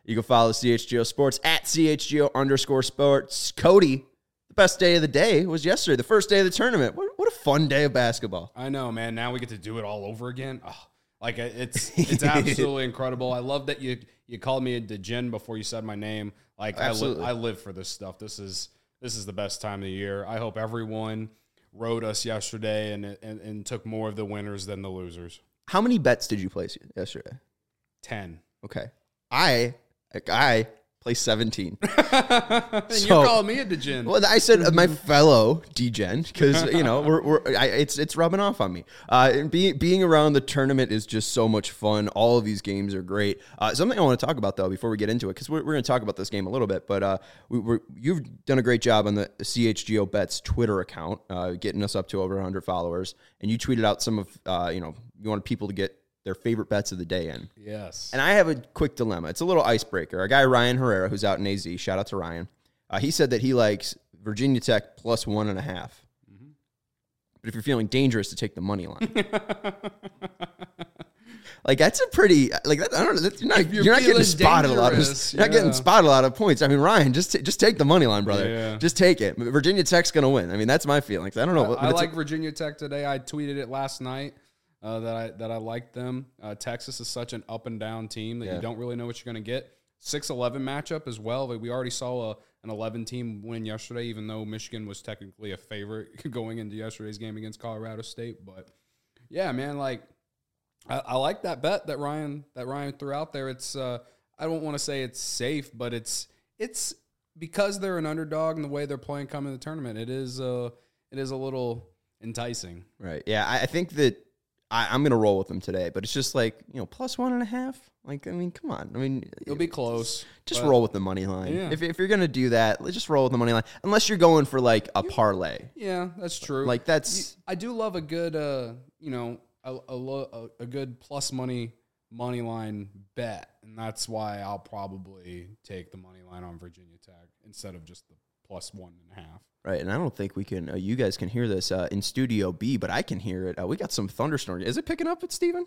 You can follow CHGO Sports at CHGO_sports. Cody, the best day of the day was yesterday, the first day of the tournament. What a fun day of basketball. I know, man. Now we get to do it all over again. Oh, like it's absolutely incredible. I love that you called me a degen before you said my name. Like I live for this stuff. This is the best time of the year. I hope everyone rode us yesterday and took more of the winners than the losers. How many bets did you place yesterday? 10. Okay. I placed 17. And you're calling me a degen. Well, I said my fellow degen because it's rubbing off on me. Being around the tournament is just so much fun. All of these games are great. Something I want to talk about though before we get into it, because we're going to talk about this game a little bit, but you've done a great job on the CHGO Bets Twitter account, getting us up to over 100 followers, and you tweeted out some of you wanted people to get their favorite bets of the day in. Yes. And I have a quick dilemma. It's a little icebreaker. Our guy, Ryan Herrera, who's out in AZ, shout out to Ryan. He said that he likes Virginia Tech plus 1.5. Mm-hmm. But if you're feeling dangerous, to take the money line. Like, that's a pretty, like, that, I don't know. You're not getting spotted a lot of, you're not getting spotted a lot of points. I mean, Ryan, just take the money line, brother. Yeah. Just take it. Virginia Tech's going to win. I mean, that's my feelings. I don't know. I like Virginia Tech today. I tweeted it last night. That I like them. Texas is such an up and down team that you don't really know what you're going to get. 6-11 matchup as well. We already saw an 11-team win yesterday, even though Michigan was technically a favorite going into yesterday's game against Colorado State. But yeah, man, like I like that bet that Ryan threw out there. It's I don't want to say it's safe, but it's because they're an underdog and the way they're playing coming to the tournament. It is a little enticing. Right. Yeah, I think that. I'm going to roll with them today, but it's just like, plus 1.5. Like, I mean, come on. I mean, it'll be close. Just roll with the money line. Yeah. If you're going to do that, let's just roll with the money line. Unless you're going for like a parlay. Yeah, that's true. Like I do love a good, a good plus money line bet, and that's why I'll probably take the money line on Virginia Tech instead of just the plus 1.5. Right, and I don't think we can. You guys can hear this in Studio B, but I can hear it. We got some thunderstorms. Is it picking up, Steven?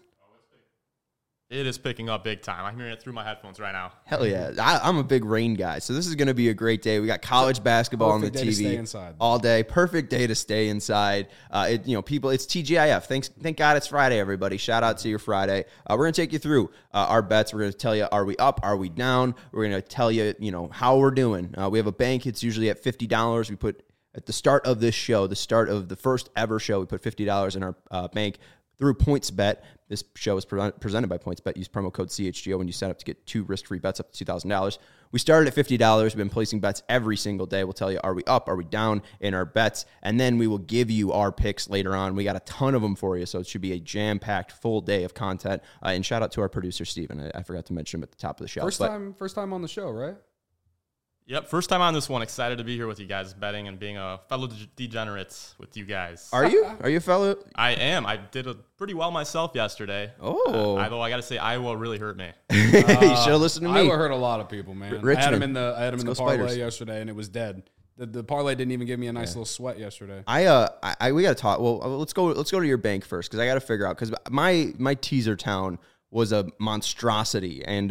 It is picking up big time. I'm hearing it through my headphones right now. Hell yeah. I'm a big rain guy, so this is going to be a great day. We got college basketball on the TV all day. Perfect day to stay inside. People, it's TGIF. Thank God it's Friday, everybody. Shout out to your Friday. We're going to take you through our bets. We're going to tell you, are we up? Are we down? We're going to tell you, how we're doing. We have a bank. It's usually at $50. We put at the start of this show, the start of the first ever show, we put $50 in our bank through PointsBet. This show is presented by PointsBet. Use promo code CHGO when you sign up to get 2 risk-free bets up to $2,000. We started at $50. We've been placing bets every single day. We'll tell you, are we up? Are we down in our bets? And then we will give you our picks later on. We got a ton of them for you, so it should be a jam-packed full day of content. And shout out to our producer, Steven. I forgot to mention him at the top of the show. First time on the show, right? Yep, first time on this one. Excited to be here with you guys, betting and being a fellow degenerate with you guys. Are you? Are you a fellow? I am. I did pretty well myself yesterday. Oh. Although I got to say, Iowa really hurt me. You should have listened to me. Iowa hurt a lot of people, man. Richmond. I had him in the parlay Spiders. yesterday, and it was dead. The parlay didn't even give me a nice little sweat yesterday. We got to talk. Well, let's go to your bank first, because I got to figure out, because my teaser town was a monstrosity, and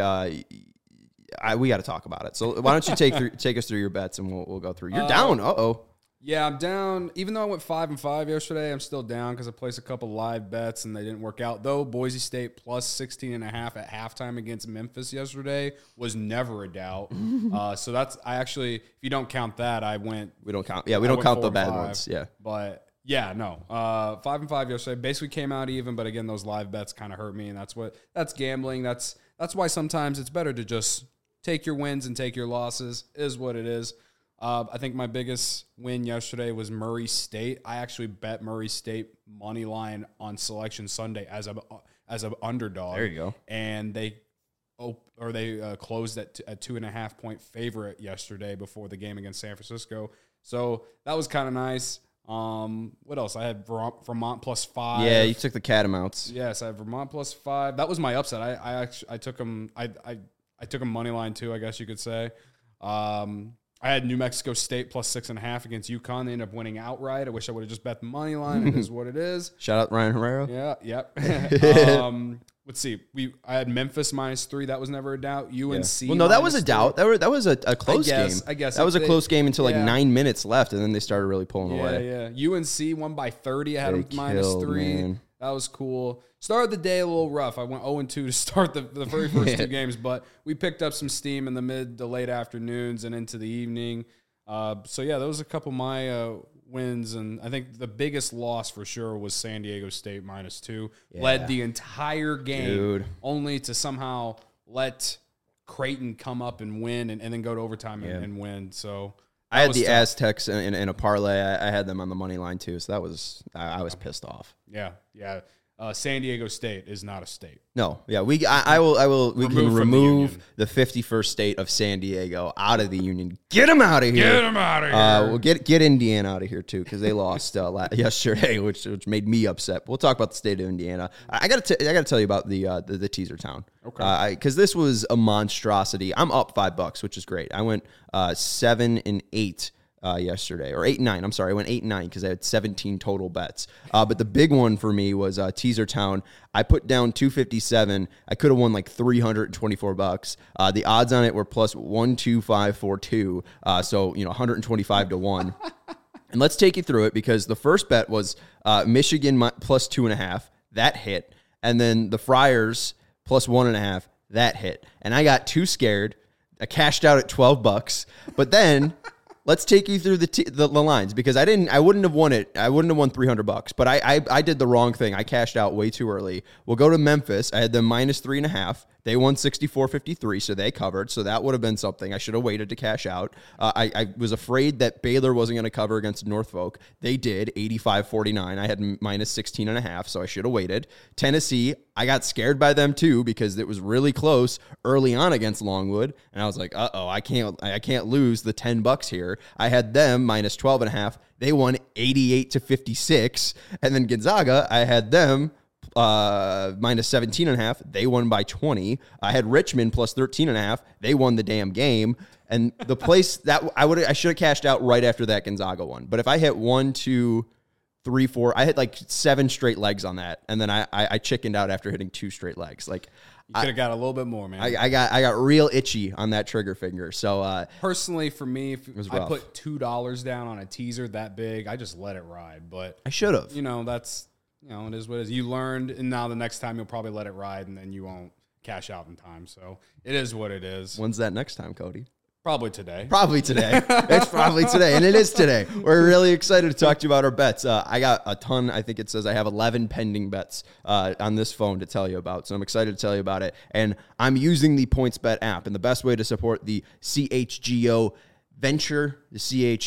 we got to talk about it. So why don't you take us through your bets, and we'll go through. You're down. Yeah, I'm down. Even though I went 5-5 yesterday, I'm still down because I placed a couple live bets and they didn't work out. Though Boise State plus 16.5 at halftime against Memphis yesterday was never a doubt. So that's if you don't count that, I went. We don't count. Yeah, we don't count the bad ones. Yeah, but. Yeah, no. 5-5 yesterday. Basically came out even, but again, those live bets kind of hurt me, and that's gambling. That's why sometimes it's better to just take your wins and take your losses. Is what it is. I think my biggest win yesterday was Murray State. I actually bet Murray State money line on Selection Sunday as an underdog. There you go. And they closed at 2.5 point favorite yesterday before the game against San Francisco. So that was kind of nice. What else? I had Vermont plus 5. Yeah, you took the Catamounts. Yes, I had Vermont plus 5. That was my upset. I took them. I took them money line too, I guess you could say. I had New Mexico State plus 6.5 against UConn. They ended up winning outright. I wish I would have just bet the money line. It is what it is. Shout out Ryan Herrera. Yeah, yep. With let's see. I had Memphis -3. That was never a doubt. UNC. Well, no, that was a doubt. That was a close game. I guess that was a close game until like 9 minutes left, and then they started really pulling away. Yeah. UNC won by 30. I had them -3. Man. That was cool. Started the day a little rough. I went 0-2 to start the very first two games, but we picked up some steam in the mid to late afternoons and into the evening. So yeah, those are a couple of my wins, and I think the biggest loss for sure was San Diego State -2. Yeah. Led the entire game, only to somehow let Creighton come up and win, and then go to overtime and win. So I had the Aztecs in a parlay. I had them on the money line too, so that was I was pissed off. Yeah. San Diego State is not a state. No, yeah, we can remove the 51st state of San Diego out of the union. Get them out of here. Get them out of here. We'll get Indiana out of here too, because they lost yesterday, which made me upset. We'll talk about the state of Indiana. I got to tell you about the teaser town. Okay. Because this was a monstrosity. I'm up $5, which is great. I went 7-8. Yesterday, or 8-9. I'm sorry, I went 8-9 because I had 17 total bets. But the big one for me was Teaser Town. I put down 257. I could have won like $324. The odds on it were plus 12542. So 125 to 1. And let's take you through it, because the first bet was Michigan plus 2.5. That hit, and then the Friars plus 1.5. That hit, and I got too scared. I cashed out at $12, but then. Let's take you through the lines, because I wouldn't have won it. I wouldn't have won $300, but I did the wrong thing. I cashed out way too early. We'll go to Memphis. I had them -3.5. They won 64-53, so they covered. So that would have been something. I should have waited to cash out. I was afraid that Baylor wasn't going to cover against Norfolk. They did, 85-49. I had -16.5, so I should have waited. Tennessee, I got scared by them too, because it was really close early on against Longwood, and I was like, uh-oh, I can't lose the $10 here. I had them -12.5. They won 88-56, and then Gonzaga, I had them -17.5. They won by 20. I had Richmond plus 13.5. They won the damn game. And the place that I should have cashed out right after that Gonzaga one. But if I hit 1, 2, 3, 4, I hit like 7 straight legs on that, and then I chickened out after hitting 2 straight legs. Like, you could have got a little bit more, man. I got real itchy on that trigger finger. So personally, for me, if I put $2 down on a teaser that big, I just let it ride. But I should have. That's. It is what it is. You learned, and now the next time you'll probably let it ride, and then you won't cash out in time. So it is what it is. When's that next time, Cody? Probably today. It's probably today, and it is today. We're really excited to talk to you about our bets. I got a ton. I think it says I have 11 pending bets on this phone to tell you about, so I'm excited to tell you about it. And I'm using the PointsBet app, and the best way to support the CHGO venture, the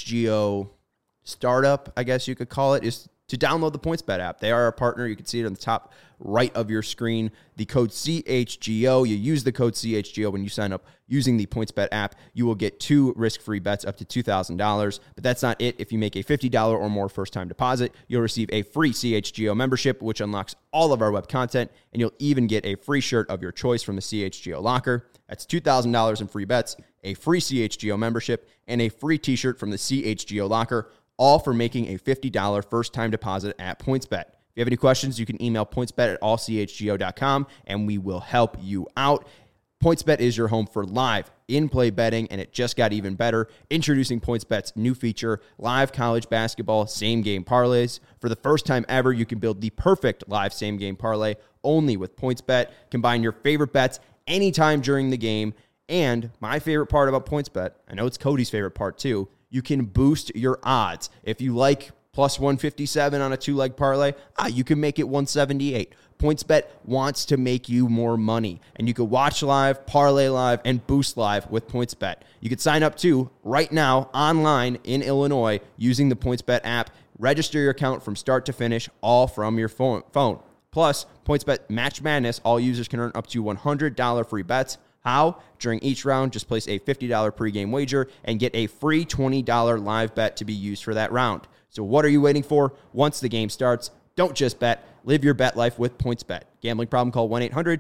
CHGO startup, I guess you could call it, is to download the PointsBet app. They are our partner. You can see it on the top right of your screen. The code CHGO. You use the code CHGO when you sign up using the PointsBet app. You will get 2 risk-free bets up to $2,000. But that's not it. If you make a $50 or more first-time deposit, you'll receive a free CHGO membership, which unlocks all of our web content, and you'll even get a free shirt of your choice from the CHGO locker. That's $2,000 in free bets, a free CHGO membership, and a free t-shirt from the CHGO locker, all for making a $50 first-time deposit at PointsBet. If you have any questions, you can email pointsbet@allchgo.com, and we will help you out. PointsBet is your home for live in-play betting, and it just got even better. Introducing PointsBet's new feature, live college basketball same-game parlays. For the first time ever, you can build the perfect live same-game parlay only with PointsBet. Combine your favorite bets anytime during the game. And my favorite part about PointsBet, I know it's Cody's favorite part too, you can boost your odds. If you like plus 157 on a 2-leg parlay, you can make it 178. PointsBet wants to make you more money, and you can watch live, parlay live, and boost live with PointsBet. You can sign up too right now online in Illinois using the PointsBet app. Register your account from start to finish, all from your phone. Plus, PointsBet Match Madness, all users can earn up to $100 free bets. How? During each round, just place a $50 pregame wager and get a free $20 live bet to be used for that round. So what are you waiting for? Once the game starts, don't just bet. Live your bet life with PointsBet. Gambling problem? Call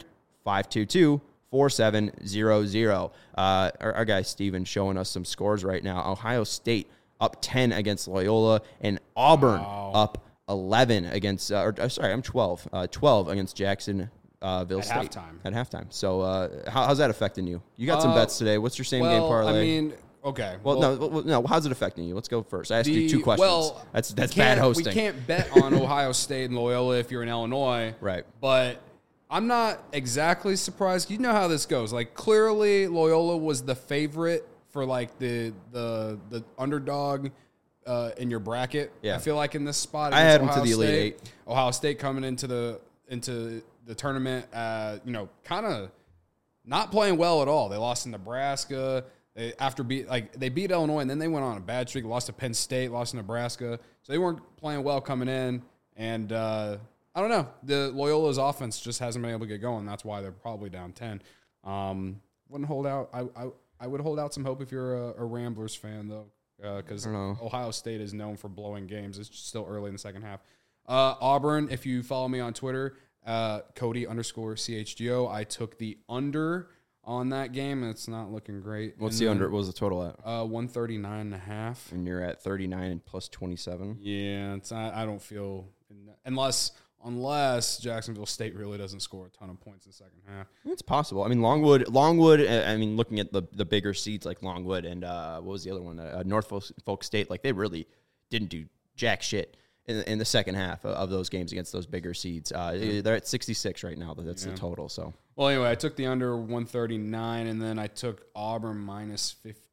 1-800-522-4700. Our guy Steven showing us some scores right now. Ohio State up 10 against Loyola, and Auburn up 11 against, 12 against Jackson State at halftime. So how's that affecting you? You got some bets today. What's your same game parlay? I mean, okay. Well, no. How's it affecting you? Let's go first. I asked you two questions. Well, that's bad hosting. We can't bet on Ohio State and Loyola if you're in Illinois, right? But I'm not exactly surprised. You know how this goes. Like, clearly, Loyola was the favorite for like the underdog in your bracket. Yeah. I feel like in this spot, I had them to the Elite Eight. Ohio State coming into the tournament, kind of not playing well at all. They lost in Nebraska. They beat Illinois, and then they went on a bad streak. Lost to Penn State, lost to Nebraska. So they weren't playing well coming in. And I don't know. The Loyola's offense just hasn't been able to get going. That's why they're probably down 10. Wouldn't hold out. I would hold out some hope if you're a Ramblers fan, though, because Ohio State is known for blowing games. It's still early in the second half. Auburn, if you follow me on Twitter, Cody_CHGO, I took the under on that game, and it's not looking great. What's the under? What was the total at? 139.5. And you're at 39 and plus 27. Yeah, I don't feel unless Jacksonville State really doesn't score a ton of points in the second half. It's possible. I mean, Longwood. I mean, looking at the bigger seeds like Longwood and what was the other one? Norfolk State. Like, they really didn't do jack shit in the second half of those games against those bigger seeds. They're at 66 right now. That's the total. So, well, anyway, I took the under 139, and then I took Auburn minus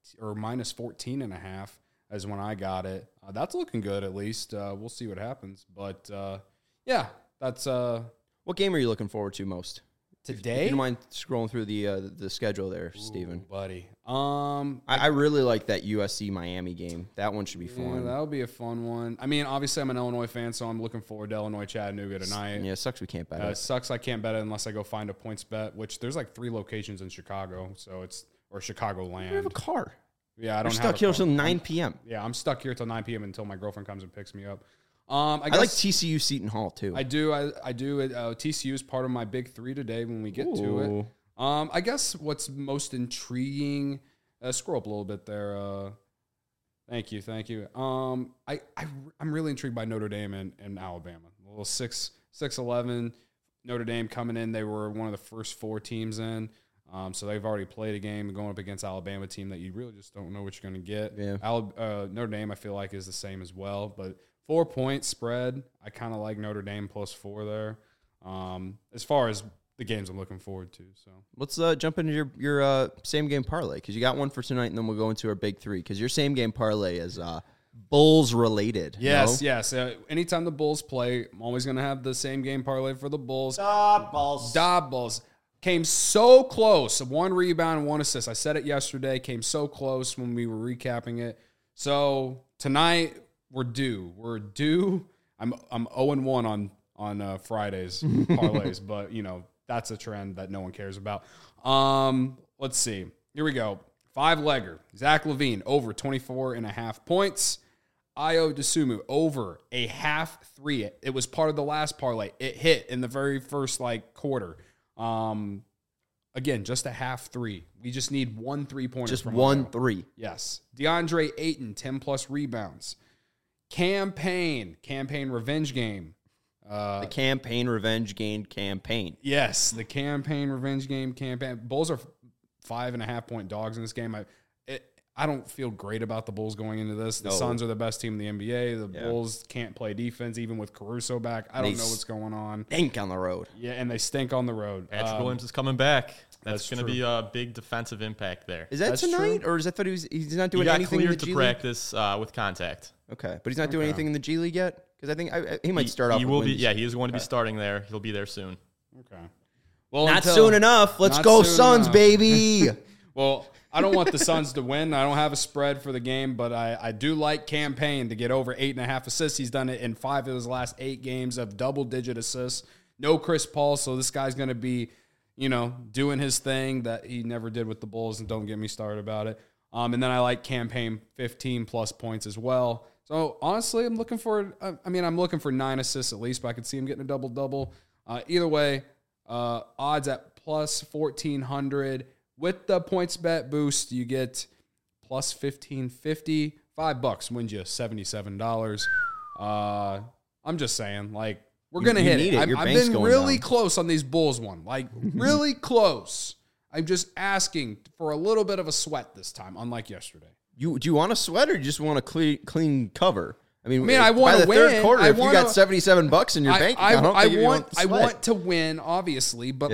14.5 as when I got it. That's looking good, at least. We'll see what happens, but yeah, that's. What game are you looking forward to most today? If you don't mind scrolling through the schedule there, Steven. Buddy. I really like that USC Miami game. That one should be fun. Yeah, that'll be a fun one. I mean, obviously, I'm an Illinois fan, so I'm looking forward to Illinois Chattanooga tonight. Yeah, it sucks we can't bet it. It sucks I can't bet it unless I go find a points bet, which there's like 3 locations in Chicago, or Chicagoland. You have a car. Yeah, I don't. You're stuck here until 9 p.m. Yeah, I'm stuck here till 9 p.m. until my girlfriend comes and picks me up. I like TCU Seton Hall too. I do. I do. TCU is part of my big 3 today when we get to it. I guess what's most intriguing. Scroll up a little bit there. Thank you. I'm really intrigued by Notre Dame and Alabama. A little 6-11. Notre Dame coming in. They were one of the first 4 teams in. So they've already played a game going up against Alabama team that you really just don't know what you're going to get. Yeah. Notre Dame, I feel like, is the same as well. But 4-point spread, I kind of like Notre Dame +4 there. As far as the games I'm looking forward to. So let's jump into your same game parlay, because you got one for tonight, and then we'll go into our big 3, because your same game parlay is Bulls related. Yes. Anytime the Bulls play, I'm always going to have the same game parlay for the Bulls. Da Bulls. Came so close. 1 rebound, 1 assist. I said it yesterday. Came so close when we were recapping it. So tonight we're due. I'm 0-1 on Fridays parlays, but that's a trend that no one cares about. Let's see. Here we go. 5-legger. Zach LaVine over 24.5 points. Ayo Dosunmu over a half 3. It was part of the last parlay. It hit in the very first quarter. Again, just a half 3. We just need 1 3-pointer. Just 1 3. Yes. DeAndre Ayton, 10+ rebounds. Campaign revenge game. The campaign revenge game campaign. Yes, the campaign revenge game campaign. Bulls are 5.5-point dogs in this game. I don't feel great about the Bulls going into this. The Suns are the best team in the NBA. The Bulls can't play defense, even with Caruso back. I don't know what's going on. Stink on the road. Yeah, and they stink on the road. Patrick Williams is coming back. That's going to be a big defensive impact there. Is that tonight, or is that he's not doing anything in the G League? He got cleared to practice with contact. Okay, but he's not doing anything in the G League yet? Because I think he might start off. He will be. Yeah, he is going to be starting there. He'll be there soon. Okay. Well, not soon enough. Let's go Suns, baby. Well, I don't want the Suns to win. I don't have a spread for the game, but I do like Campaign to get over 8.5 assists. He's done it in 5 of his last 8 games of double-digit assists. No Chris Paul, so this guy's going to be, doing his thing that he never did with the Bulls, and don't get me started about it. And then I like Campaign 15+ points as well. So, honestly, I'm looking for 9 assists at least, but I could see him getting a double-double. Either way, odds at +1,400. With the points bet boost, you get +1,550. $5 wins you $77. I'm just saying, We're going to hit it. I've been really close on these Bulls one. Like, really close. I'm just asking for a little bit of a sweat this time, unlike yesterday. Do you want a sweat or do you just want a clean cover? I mean, I want to win. Third quarter, if you got $77 in your bank account, I want to win, obviously, but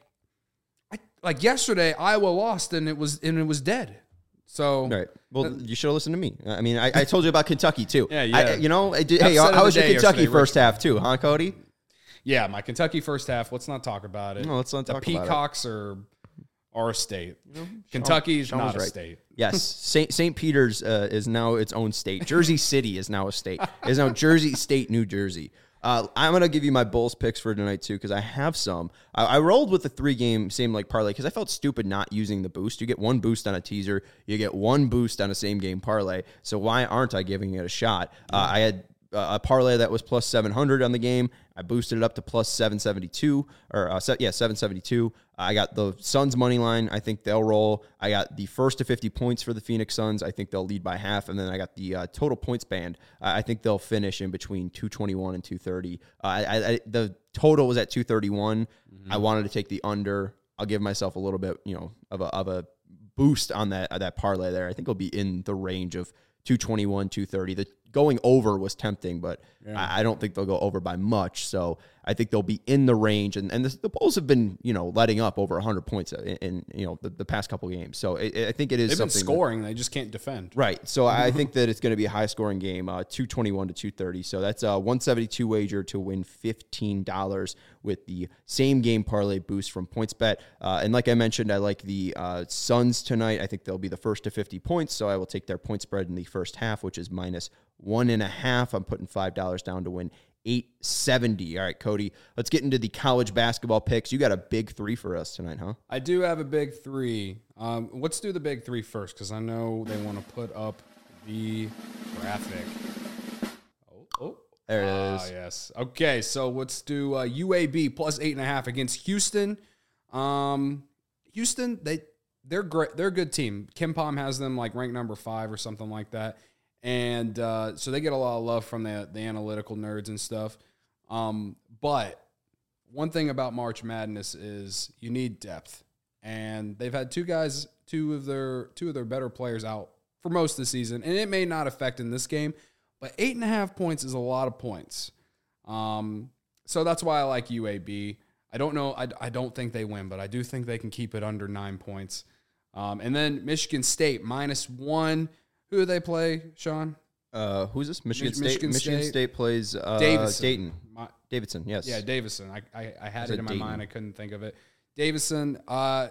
like yesterday, Iowa lost and it was dead. So right. Well, you should have listened to me. I mean, I told you about Kentucky too. Yeah. Hey, how was your Kentucky first half too, huh, Cody? Yeah, my Kentucky first half. Let's not talk about it. No, let's not talk about it. The Peacocks are a state. Kentucky's not a state. Yes, St. Peter's is now its own state. Jersey City is now a state. It is now Jersey State, New Jersey. I'm going to give you my Bulls picks for tonight, too, because I have some. I rolled with the 3-game same-leg parlay because I felt stupid not using the boost. You get 1 boost on a teaser. You get 1 boost on a same-game parlay. So why aren't I giving it a shot? I had a parlay that was plus 700 on the game. I boosted it up to plus 772, 772. I got the Suns money line. I think they'll roll. I got the first to 50 points for the Phoenix Suns. I think they'll lead by half. And then I got the total points band. I think they'll finish in between 221 and 230. The total was at 231. Mm-hmm. I wanted to take the under. I'll give myself a little bit, of a boost on that parlay there. I think it'll be in the range of 221, 230. The going over was tempting, but I don't think they'll go over by much. So I think they'll be in the range. And the Bulls have been, letting up over 100 points in the past couple games. So I think it is They've something. Been scoring. They just can't defend. Right. So I think that it's going to be a high-scoring game, 221 to 230. So that's a 172 wager to win $15 with the same game parlay boost from PointsBet. And like I mentioned, I like the Suns tonight. I think they'll be the first to 50 points. So I will take their point spread in the first half, which is minus 1.5. I'm putting $5 down to win $870. All right, Cody, let's get into the college basketball picks. You got a big 3 for us tonight, huh? I do have a big 3. Let's do the big 3 first because I know they want to put up the graphic. Oh, there it is. Yes. Okay, so let's do UAB plus 8.5 against Houston. Houston, they're great. They're a good team. KenPom has them like ranked number 5 or something like that. And so they get a lot of love from the analytical nerds and stuff. But one thing about March Madness is you need depth. And they've had two of their better players out for most of the season. And it may not affect in this game, but 8.5 points is a lot of points. So that's why I like UAB. I don't know. I don't think they win, but I do think they can keep it under 9 points. And then Michigan State -1. Who do they play, Sean? Who's this? Michigan State. Michigan State plays Dayton. Davidson, yes. Yeah, Davidson. I had it in my mind. I couldn't think of it. Davidson. The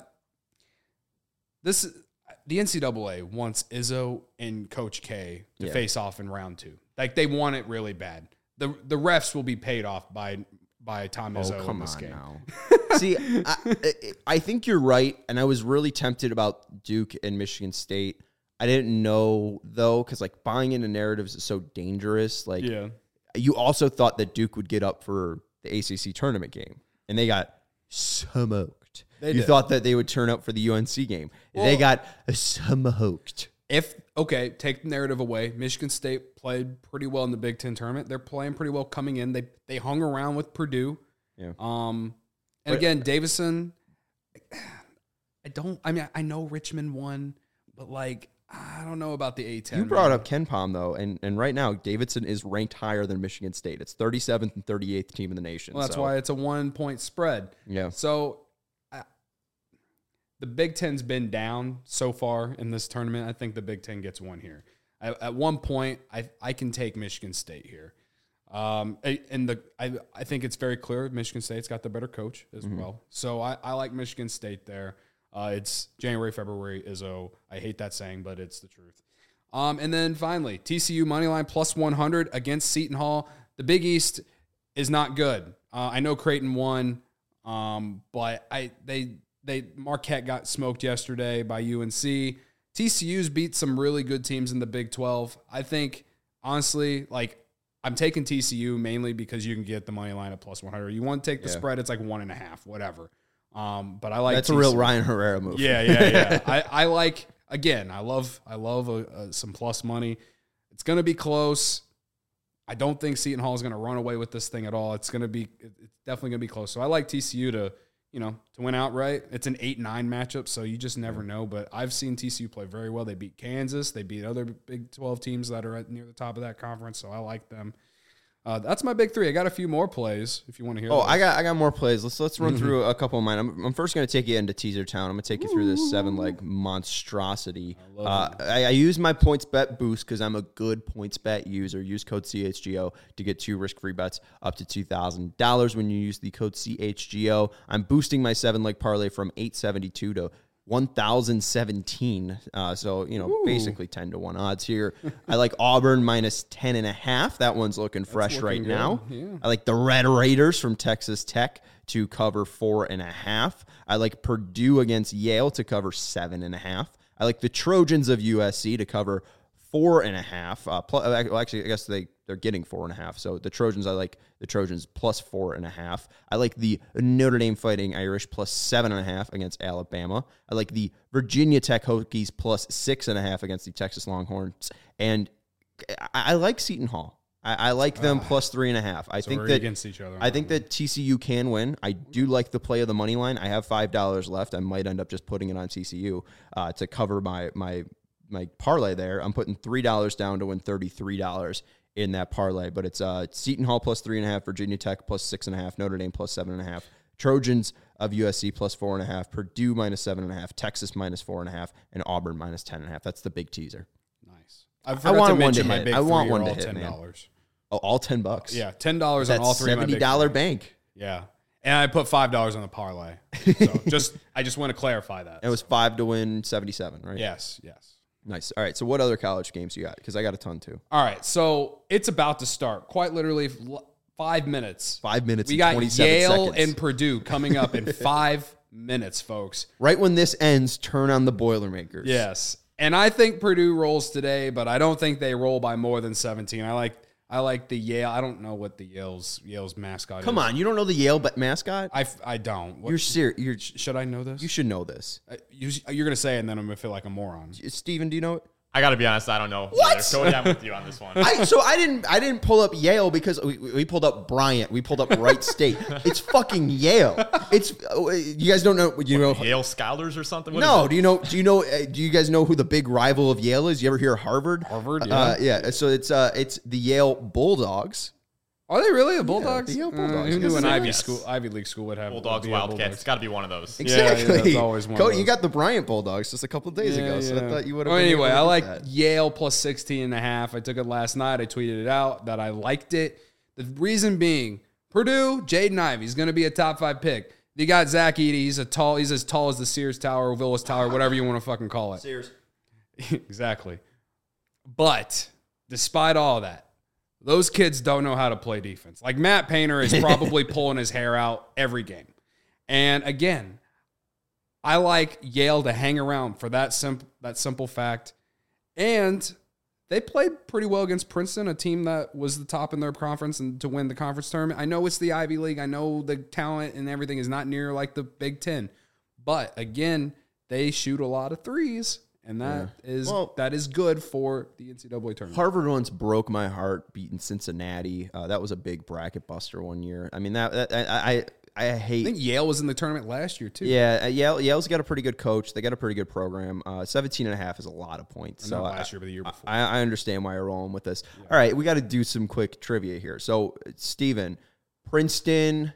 NCAA wants Izzo and Coach K to face off in round 2. Like they want it really bad. The refs will be paid off by Tom Izzo in this game. Now. See, I think you're right, and I was really tempted about Duke and Michigan State. I didn't know, though, because, buying into narratives is so dangerous. You also thought that Duke would get up for the ACC tournament game, and they got smoked. You thought that they would turn up for the UNC game. Well, they got smoked. Take the narrative away. Michigan State played pretty well in the Big Ten tournament. They're playing pretty well coming in. They hung around with Purdue. Yeah. Again, Davidson, I know Richmond won, but, I don't know about the A-10. You brought up KenPom, though, and right now, Davidson is ranked higher than Michigan State. It's 37th and 38th team in the nation. Well, that's why it's a 1-point spread. Yeah. So, the Big Ten's been down so far in this tournament. I think the Big Ten gets one here. At one point, I can take Michigan State here. I think it's very clear Michigan State's got the better coach as well. So, I like Michigan State there. It's January, February, Izzo. I hate that saying, but it's the truth. And then finally, TCU moneyline plus 100 against Seton Hall. The Big East is not good. I know Creighton won, but Marquette got smoked yesterday by UNC. TCU's beat some really good teams in the Big 12. I think, honestly, I'm taking TCU mainly because you can get the money line at plus 100. You want to take the spread, it's 1.5, whatever. But I like that's TCU. A real Ryan Herrera move. Yeah. I love some plus money. It's going to be close. I don't think Seton Hall is going to run away with this thing at all. It's definitely going to be close. So I like TCU to win outright. It's an 8-9 matchup, so you just never know. But I've seen TCU play very well. They beat Kansas. They beat other Big 12 teams that are near the top of that conference, so I like them. That's my big three. I got a few more plays if you want to hear. Oh, those. I got more plays. Let's run through a couple of mine. I'm first going to take you into Teaser Town. I'm going to take you through this 7-leg monstrosity. I use my points bet boost because I'm a good points bet user. Use code CHGO to get 2 risk-free bets up to $2,000 when you use the code CHGO. I'm boosting my 7-leg parlay from 872 to 1,017. So, basically 10 to 1 odds here. I like Auburn minus 10.5. That one's looking fresh right now. Yeah. I like the Red Raiders from Texas Tech to cover 4.5. I like Purdue against Yale to cover 7.5. I like the Trojans of USC to cover 4.5. Actually, I guess they're getting 4.5. So the Trojans, I like the Trojans plus 4.5. I like the Notre Dame Fighting Irish plus 7.5 against Alabama. I like the Virginia Tech Hokies plus 6.5 against the Texas Longhorns. And I like Seton Hall. I like them plus 3.5. I think that against each other. I think that TCU can win. I do like the play of the money line. I have $5 left. I might end up just putting it on TCU to cover my parlay there. I'm putting $3 down to win $33 in that parlay, but it's Seton Hall plus 3.5, Virginia Tech plus 6.5, Notre Dame plus 7.5, Trojans of USC plus 4.5, Purdue minus 7.5, Texas minus 4.5, and Auburn minus 10.5. That's the big teaser. Nice. I want one to hit. I want one to hit, $10. Man. Oh, all $10. Yeah, $10 on all three. $70 bank. Yeah. And I put $5 on the parlay. So I just want to clarify that. It was 5 to win 77, right? Yes. Nice. All right. So what other college games you got? Because I got a ton too. All right. So it's about to start. Quite literally 5 minutes. 5 minutes. We got Yale and Purdue coming up in 5 minutes, folks. Right when this ends, turn on the Boilermakers. Yes. And I think Purdue rolls today, but I don't think they roll by more than 17. I like the Yale. I don't know what the Yale's mascot is. Come on, you don't know the Yale mascot? I don't. You're serious. Should I know this? You should know this. You're gonna say it, and then I'm gonna feel like a moron. Steven, do you know it? I got to be honest, I don't know. What? So I'm with you on this one. I didn't pull up Yale because we pulled up Bryant. We pulled up Wright State. It's fucking Yale. It's you guys don't know. Yale Scholars or something? No. Do you guys know who the big rival of Yale is? You ever hear Harvard? Harvard. Yeah. Yeah. So it's the Yale Bulldogs. Are they really the Bulldogs? The Yale Bulldogs. Who knew an Ivy League school would have Bulldogs, Wildcats? It's got to be one of those. Exactly. Yeah, that's always one. Cody, you got the Bryant Bulldogs just a couple of days ago, so I thought you would have. Well, anyway, I like Yale plus 16.5. I took it last night. I tweeted it out that I liked it. The reason being, Purdue, Jaden Ivey is going to be a top 5 pick. You got Zach Edey. He's as tall as the Sears Tower, or Willis Tower, whatever you want to fucking call it. Sears. Exactly. But despite all that, those kids don't know how to play defense. Like Matt Painter is probably pulling his hair out every game. And again, I like Yale to hang around for that simple fact. And they played pretty well against Princeton, a team that was the top in their conference and to win the conference tournament. I know it's the Ivy League. I know the talent and everything is not near like the Big Ten. But again, they shoot a lot of threes. And that is good for the NCAA tournament. Harvard once broke my heart beating Cincinnati. That was a big bracket buster one year. I mean, I hate. I think Yale was in the tournament last year too. Yeah, Yale's got a pretty good coach. They got a pretty good program. 17.5 is a lot of points. So last year, but the year before. I understand why you're rolling with this. Yeah. All right, we got to do some quick trivia here. So, Steven, Princeton.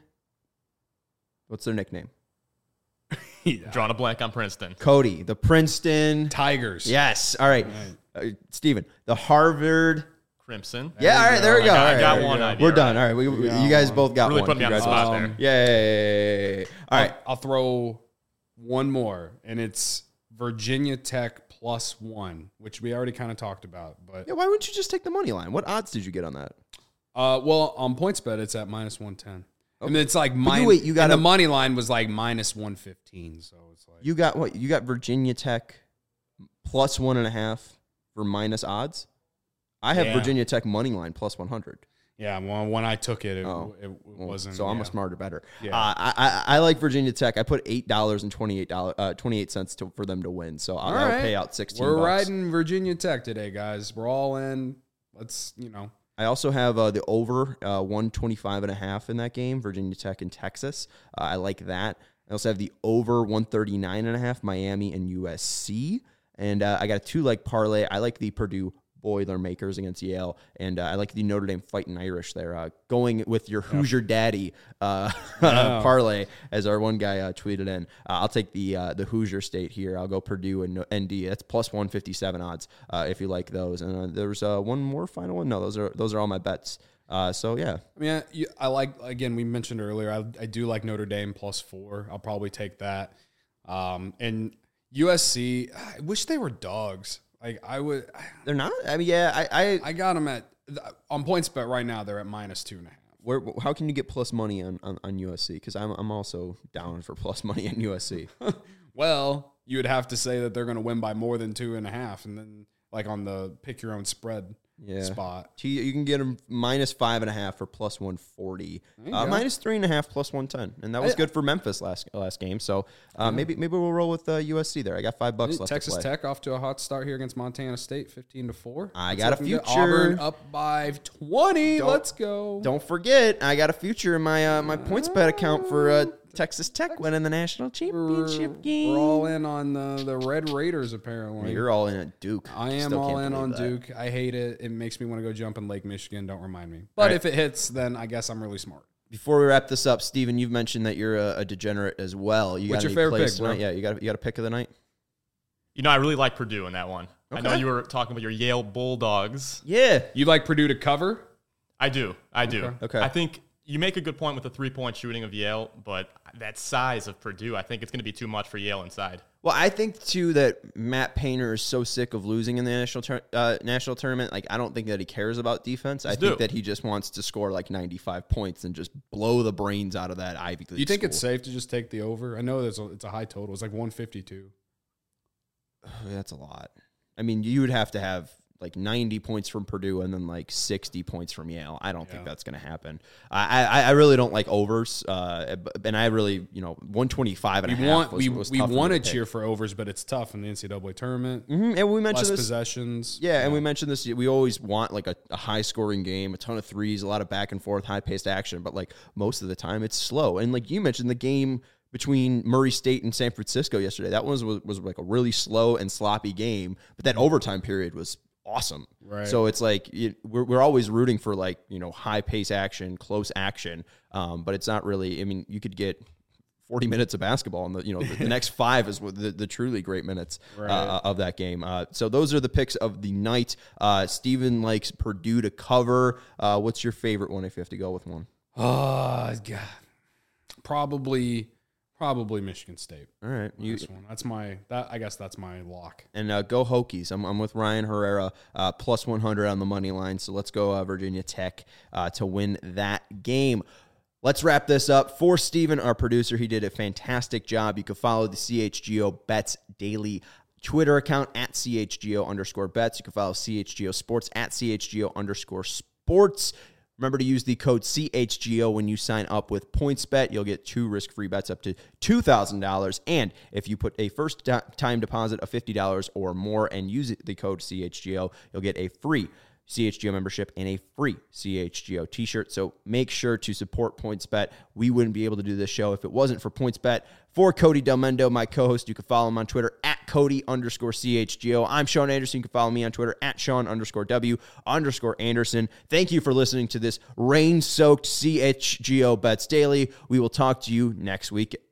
What's their nickname? Drawing a blank on Princeton. Cody, the Princeton Tigers. Yes. All right. Steven, the Harvard Crimson. Yeah, all right, there we go. I got one idea. We're done. All right, you guys both got really one. Really put me on the spot there. Yay. All right. I'll throw one more, and it's Virginia Tech +1, which we already kind of talked about. But yeah, why wouldn't you just take the money line? What odds did you get on that? Well, on PointsBet, it's at -110. Okay. And it's like the money line was like -115. So it's like you got what? You got Virginia Tech +1.5 for minus odds. I have Virginia Tech money line +100. Yeah, well, when I took it, it wasn't. So I'm a smarter better. Yeah. I like Virginia Tech. I put $8.28 for them to win. So I'll pay out $16. We're riding Virginia Tech today, guys. We're all in. Let's I also have the over 125.5 in that game, Virginia Tech and Texas. I like that. I also have the over 139.5, Miami and USC. And I got a 2-leg parlay. I like the Purdue Boilermakers against Yale, and I like the Notre Dame Fighting Irish there. Going with your Hoosier Daddy parlay, as our one guy tweeted in. I'll take the Hoosier State here. I'll go Purdue and ND. That's plus 157 odds if you like those. And there's one more final one. No, those are all my bets. So yeah, I mean, I like, again, we mentioned earlier, I do like Notre Dame plus 4. I'll probably take that. And USC, I wish they were dogs. Like I would, they're not. I mean, yeah, I got them on PointsBet right now. They're at minus 2.5. Where? How can you get plus money on USC? Because I'm also down for plus money on USC. Well, you would have to say that they're going to win by more than 2.5, and then like on the pick your own spread spot, you can get them minus 5.5 for plus 140, minus 3.5 plus 110, and that was good for Memphis last game. So maybe we'll roll with USC there. I got $5 left. Texas to play. Tech off to a hot start here against Montana State, 15-4. I got a future. Auburn up by 20. Let's go. Don't forget, I got a future in my my PointsBet account for Texas Tech winning the national championship game. We're all in on the Red Raiders, apparently. You're all in on Duke. I am all in on Duke. I hate it. It makes me want to go jump in Lake Michigan. Don't remind me. But if it hits, then I guess I'm really smart. Before we wrap this up, Steven, you've mentioned that you're a degenerate as well. What's your favorite pick, bro? Yeah, you got a pick of the night? I really like Purdue in that one. Okay. I know you were talking about your Yale Bulldogs. Yeah. You like Purdue to cover? I do. Okay. I think you make a good point with the 3-point shooting of Yale, but that size of Purdue, I think it's going to be too much for Yale inside. Well, I think, too, that Matt Painter is so sick of losing in the national tournament. Like, I don't think that he cares about defense. I think that he just wants to score like 95 points and just blow the brains out of that Ivy League. You think it's safe to just take the over? I know it's a high total. It's like 152. That's a lot. I mean, you would have to have like 90 points from Purdue and then like 60 points from Yale. I don't think that's going to happen. I really don't like overs. And I really, 125 and a half was we want to cheer for overs, but it's tough in the NCAA tournament. Mm-hmm. And we mentioned less this, possessions. Yeah, and we mentioned this. We always want like a high scoring game, a ton of threes, a lot of back and forth, high paced action. But like most of the time it's slow. And like you mentioned, the game between Murray State and San Francisco yesterday, that was like a really slow and sloppy game. But that overtime period was awesome. Right. So it's like we're always rooting for like, high pace action, close action. But it's not really, I mean, you could get 40 minutes of basketball and the next 5 is the truly great minutes of that game. So those are the picks of the night. Steven likes Purdue to cover. What's your favorite one if you have to go with one? Oh, God. Probably Michigan State. All right, I guess that's my lock. And go Hokies. I'm with Ryan Herrera plus 100 on the money line. So let's go Virginia Tech to win that game. Let's wrap this up. For Steven, our producer, he did a fantastic job. You can follow the CHGO Bets Daily Twitter account at CHGO_bets. You can follow CHGO Sports at CHGO_sports. Remember to use the code CHGO when you sign up with PointsBet. You'll get 2 risk-free bets up to $2,000. And if you put a first-time deposit of $50 or more and use the code CHGO, you'll get a free CHGO membership and a free CHGO t-shirt. So make sure to support PointsBet. We wouldn't be able to do this show if it wasn't for PointsBet. For Cody Delmendo, my co-host, you can follow him on Twitter at Cody_CHGO. I'm Sean Anderson. You can follow me on Twitter at Sean_W_Anderson. Thank you for listening to this rain-soaked CHGO Bets Daily. We will talk to you next week.